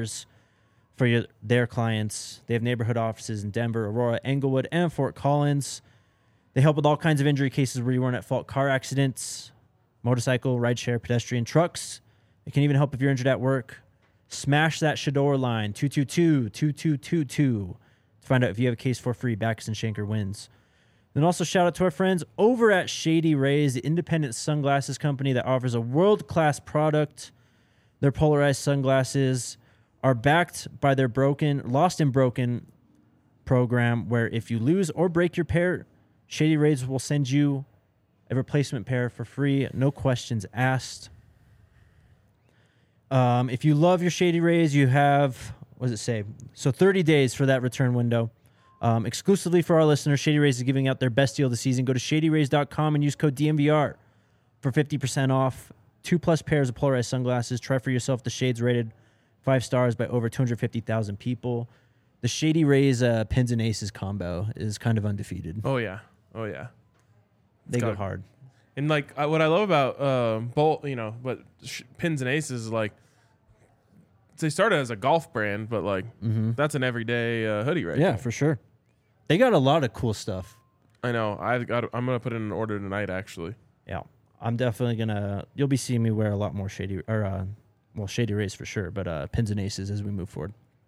for their clients. They have neighborhood offices in Denver, Aurora, Englewood, and Fort Collins. They help with all kinds of injury cases where you weren't at fault. Car accidents, motorcycle, rideshare, pedestrian, trucks. They can even help if you're injured at work. Smash that Shador line, 222-2222 to find out if you have a case for free. Backus and Shanker wins. Then also shout out to our friends over at Shady Rays, the independent sunglasses company that offers a world-class product. Their polarized sunglasses are backed by their Lost and Broken program, where if you lose or break your pair, Shady Rays will send you a replacement pair for free, no questions asked. If you love your Shady Rays, you have, what does it say? So 30 days for that return window. Exclusively for our listeners, Shady Rays is giving out their best deal of the season. Go to shadyrays.com and use code DMVR for 50% off. 2+ pairs of polarized sunglasses. Try for yourself the shades rated 5 stars by over 250,000 people. The Shady Rays pins and aces combo is kind of undefeated. Oh, yeah. They go hard. And, like, what I love about Bolt, you know, but pins and aces is, like, they started as a golf brand, but, like, that's an everyday hoodie right Yeah, there. for sure. They got a lot of cool stuff. I know. I'm going to put in an order tonight, actually. Yeah. I'm definitely going to... You'll be seeing me wear a lot more Shady... Shady Rays for sure, but pins and aces as we move forward.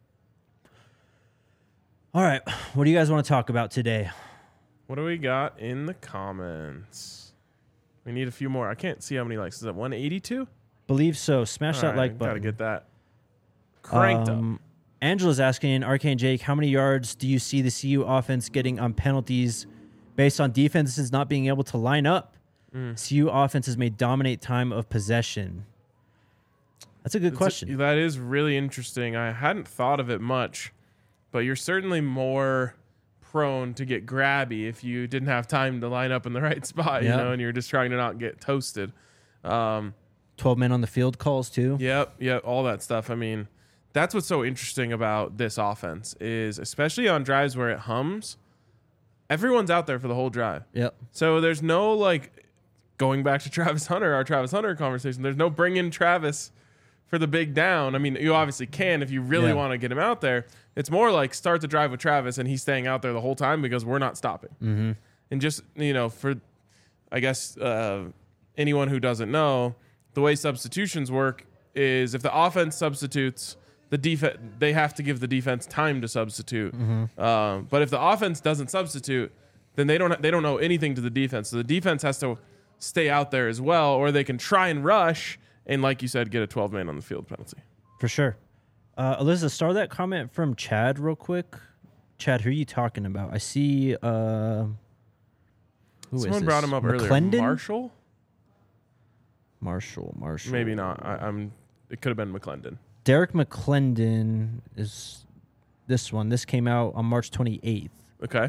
All right. What do you guys want to talk about today? What do we got in the comments? We need a few more. I can't see how many likes. Is that 182? Believe so. Smash that like button. Got to get that cranked up. Angela's asking, RK and Jake, how many yards do you see the CU offense getting on penalties based on defenses not being able to line up? CU offenses may dominate time of possession. That's a good question. That is really interesting. I hadn't thought of it much, but you're certainly more prone to get grabby if you didn't have time to line up in the right spot, you know, and you're just trying to not get toasted. 12 men on the field calls too. Yep, all that stuff. I mean, that's what's so interesting about this offense is, especially on drives where it hums, everyone's out there for the whole drive. Yep. So there's no, like, going back to Travis Hunter, our Travis Hunter conversation, there's no bring in Travis for the big down. I mean, you obviously can if you really want to get him out there. It's more like start the drive with Travis and he's staying out there the whole time because we're not stopping. Mm-hmm. And just, you know, for, I guess, anyone who doesn't know, the way substitutions work is if the offense substitutes, the defense, they have to give the defense time to substitute. Mm-hmm. But if the offense doesn't substitute, then they don't know anything to the defense. So the defense has to stay out there as well, or they can try and rush and, like you said, get a 12-man on the field penalty. For sure. Alyssa, start that comment from Chad real quick. Chad, who are you talking about? I see. Someone brought him up earlier. McClendon? Marshall. Marshall. Maybe not. It could have been McClendon. Derek McClendon is this one. This came out on March 28th. Okay.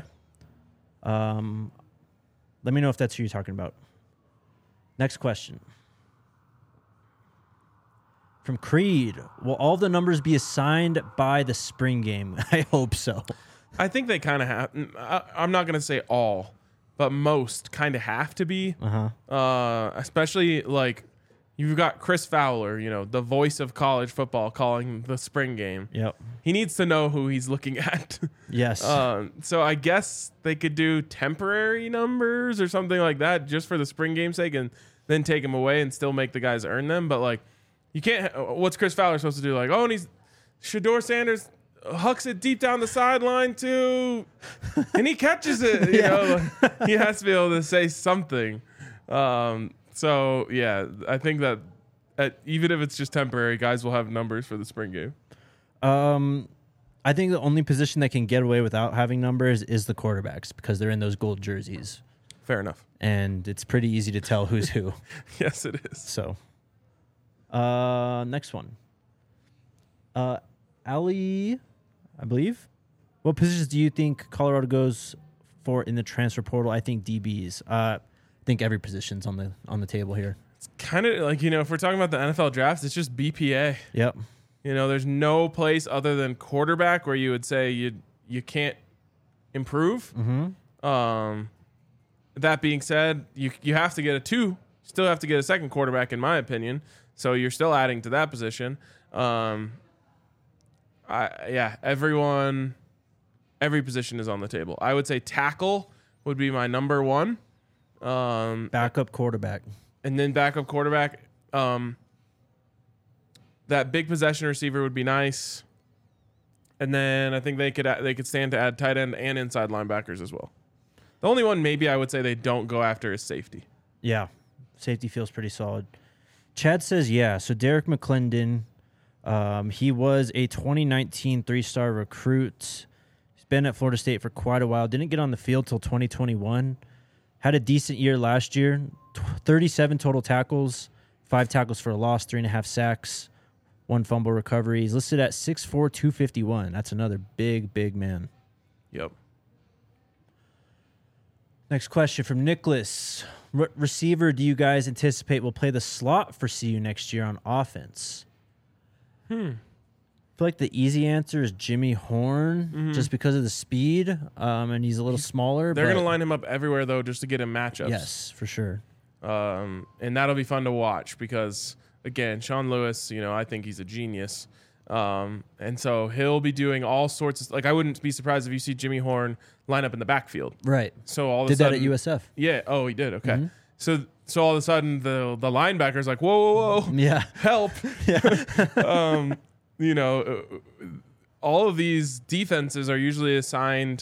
Let me know if that's who you're talking about. Next question. From Creed, will all the numbers be assigned by the spring game? I hope so. I think they kind of have. I'm not going to say all, but most kind of have to be. Especially, like, you've got Chris Fowler, you know, the voice of college football, calling the spring game. Yep. He needs to know who he's looking at. Yes. So I guess they could do temporary numbers or something like that just for the spring game's sake and then take them away and still make the guys earn them. But, like, you can't. What's Chris Fowler supposed to do? Like, and he's Shedeur Sanders hucks it deep down the sideline too, and he catches it. You know, like, he has to be able to say something. So yeah, I think that even if it's just temporary, guys will have numbers for the spring game. I think the only position that can get away without having numbers is the quarterbacks because they're in those gold jerseys. Fair enough. And it's pretty easy to tell who's who. Yes, it is. So, next one. Ali, I believe. What positions do you think Colorado goes for in the transfer portal? I think DBs. I think every position's on the table here. It's kind of like, you know, if we're talking about the NFL drafts, it's just BPA. Yep. You know, there's no place other than quarterback where you would say you can't improve. Mm-hmm. That being said, you have to get a two. Still have to get a second quarterback, in my opinion. So you're still adding to that position. Every position is on the table. I would say tackle would be my number one. Backup quarterback. And then backup quarterback. That big possession receiver would be nice. And then I think they could stand to add tight end and inside linebackers as well. The only one maybe I would say they don't go after is safety. Yeah. Safety feels pretty solid. Chad says, yeah. So Derek McClendon, he was a 2019 three-star recruit. He's been at Florida State for quite a while. Didn't get on the field till 2021. Had a decent year last year. 37 total tackles, 5 tackles for a loss, 3.5 sacks, 1 fumble recovery. He's listed at 6'4", 251. That's another big, big man. Yep. Next question from Nicholas. Receiver do you guys anticipate will play the slot for CU next year on offense? I feel like the easy answer is Jimmy Horn, just because of the speed, and he's a little smaller. They're going to line him up everywhere, though, just to get him matchups. Yes, for sure. And that'll be fun to watch because, again, Sean Lewis, you know, I think he's a genius. And so he'll be doing all sorts of, like, I wouldn't be surprised if you see Jimmy Horn line up in the backfield. Right. So all of did a sudden, that at USF. Yeah. Oh, he did. Okay. Mm-hmm. So all of a sudden the linebacker's like, whoa, Yeah. help. Yeah. You know, all of these defenses are usually assigned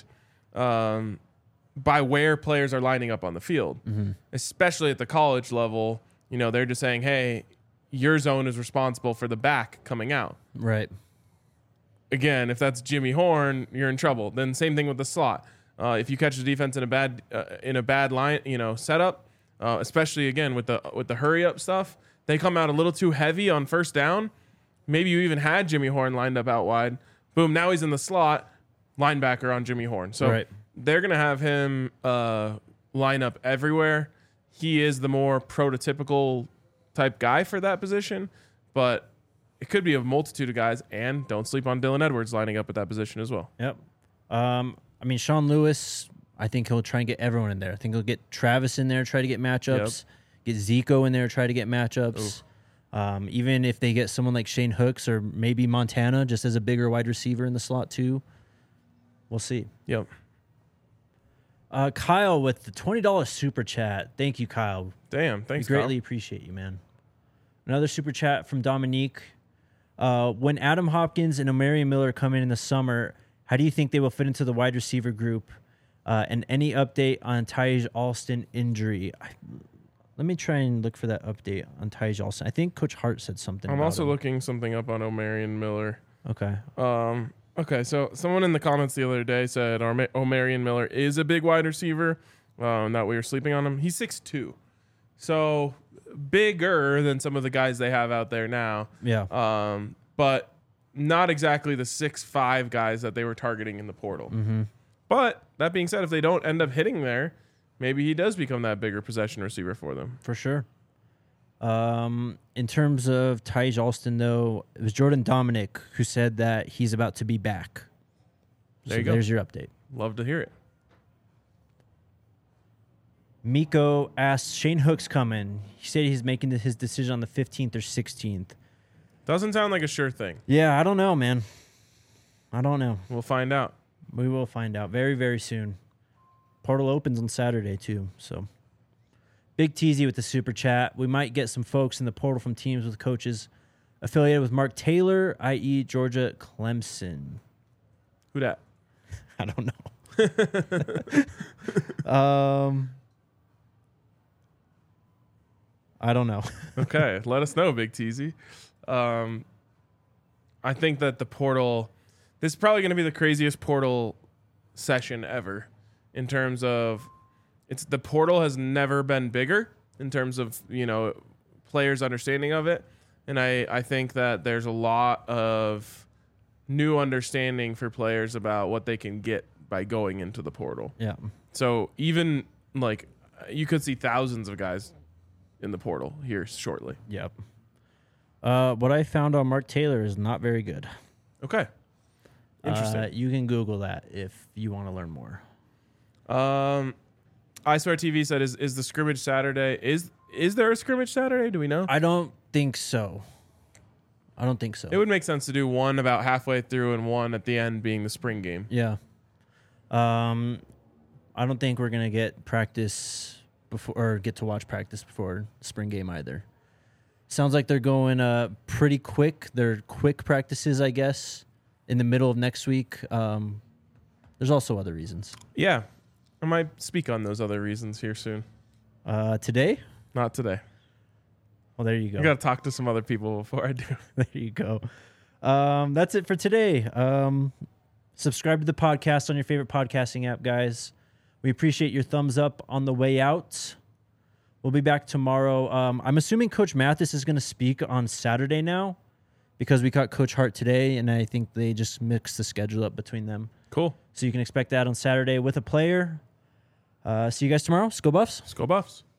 by where players are lining up on the field, especially at the college level. You know, they're just saying, hey, your zone is responsible for the back coming out. Right. again, if that's Jimmy Horn, you're in trouble. Then same thing with the slot. If you catch the defense in a bad line, setup, especially again with the hurry up stuff, they come out a little too heavy on first down. Maybe you even had Jimmy Horn lined up out wide. Boom, now he's in the slot, linebacker on Jimmy Horn. So they're gonna have him line up everywhere. He is the more prototypical type guy for that position, but it could be a multitude of guys, and don't sleep on Dylan Edwards lining up at that position as well. Yep. I mean, Sean Lewis, I think he'll try and get everyone in there. I think he'll get Travis in there, try to get matchups, get Zico in there, try to get matchups. Even if they get someone like Shane Hooks or maybe Montana just as a bigger wide receiver in the slot too, we'll see. Yep. Kyle with the $20 super chat. Thank you, Kyle. Damn, thanks, We greatly appreciate you, man. Another super chat from Dominique. When Adam Hopkins and Omarion Miller come in the summer, how do you think they will fit into the wide receiver group? And any update on Taj Alston injury? Let me try and look for that update on Taj Alston. I think Coach Hart said something. I'm about also him. looking something up on Omarion Miller. Okay. Okay, so someone in the comments the other day said Omarion Miller is a big wide receiver, that we were sleeping on him. He's 6'2", so bigger than some of the guys they have out there now. Yeah. But not exactly the 6'5" guys that they were targeting in the portal. Mm-hmm. But that being said, if they don't end up hitting there, maybe he does become that bigger possession receiver for them. For sure. In terms of Taj Alston, though, it was Jordan Dominic who said that he's about to be back. There you go. There's your update. Love to hear it. Miko asked, Shane Hook's coming. He said he's making his decision on the 15th or 16th. Doesn't sound like a sure thing. Yeah, I don't know, man. I don't know. We'll find out. We will find out very, very soon. Portal opens on Saturday, too. So, Big Teasy with the super chat. We might get some folks in the portal from teams with coaches affiliated with Mark Taylor, i.e. Georgia Clemson. Who dat? I don't know. I don't know. Okay, let us know, Big Teasy. I think that the portal, this is probably going to be the craziest portal session ever in terms of the portal has never been bigger in terms of, players' understanding of it. And I think that there's a lot of new understanding for players about what they can get by going into the portal. Yeah. So even you could see thousands of guys in the portal here shortly. Yep. What I found on Mark Taylor is not very good. Okay. Interesting. You can Google that if you want to learn more. I Swear TV said, is the scrimmage Saturday? Is there a scrimmage Saturday? Do we know? I don't think so. It would make sense to do one about halfway through and one at the end being the spring game. Yeah. I don't think we're gonna get practice before or get to watch practice before spring game either. Sounds like they're going pretty quick. They're quick practices, I guess, in the middle of next week. There's also other reasons. Yeah. I might speak on those other reasons here soon. Today? Not today. Well, there you go. I got to talk to some other people before I do. There you go. That's it for today. Subscribe to the podcast on your favorite podcasting app, guys. We appreciate your thumbs up on the way out. We'll be back tomorrow. I'm assuming Coach Mathis is going to speak on Saturday now because we caught Coach Hart today, and I think they just mixed the schedule up between them. Cool. So you can expect that on Saturday with a player. See you guys tomorrow. Let's go Buffs. Let's go Buffs.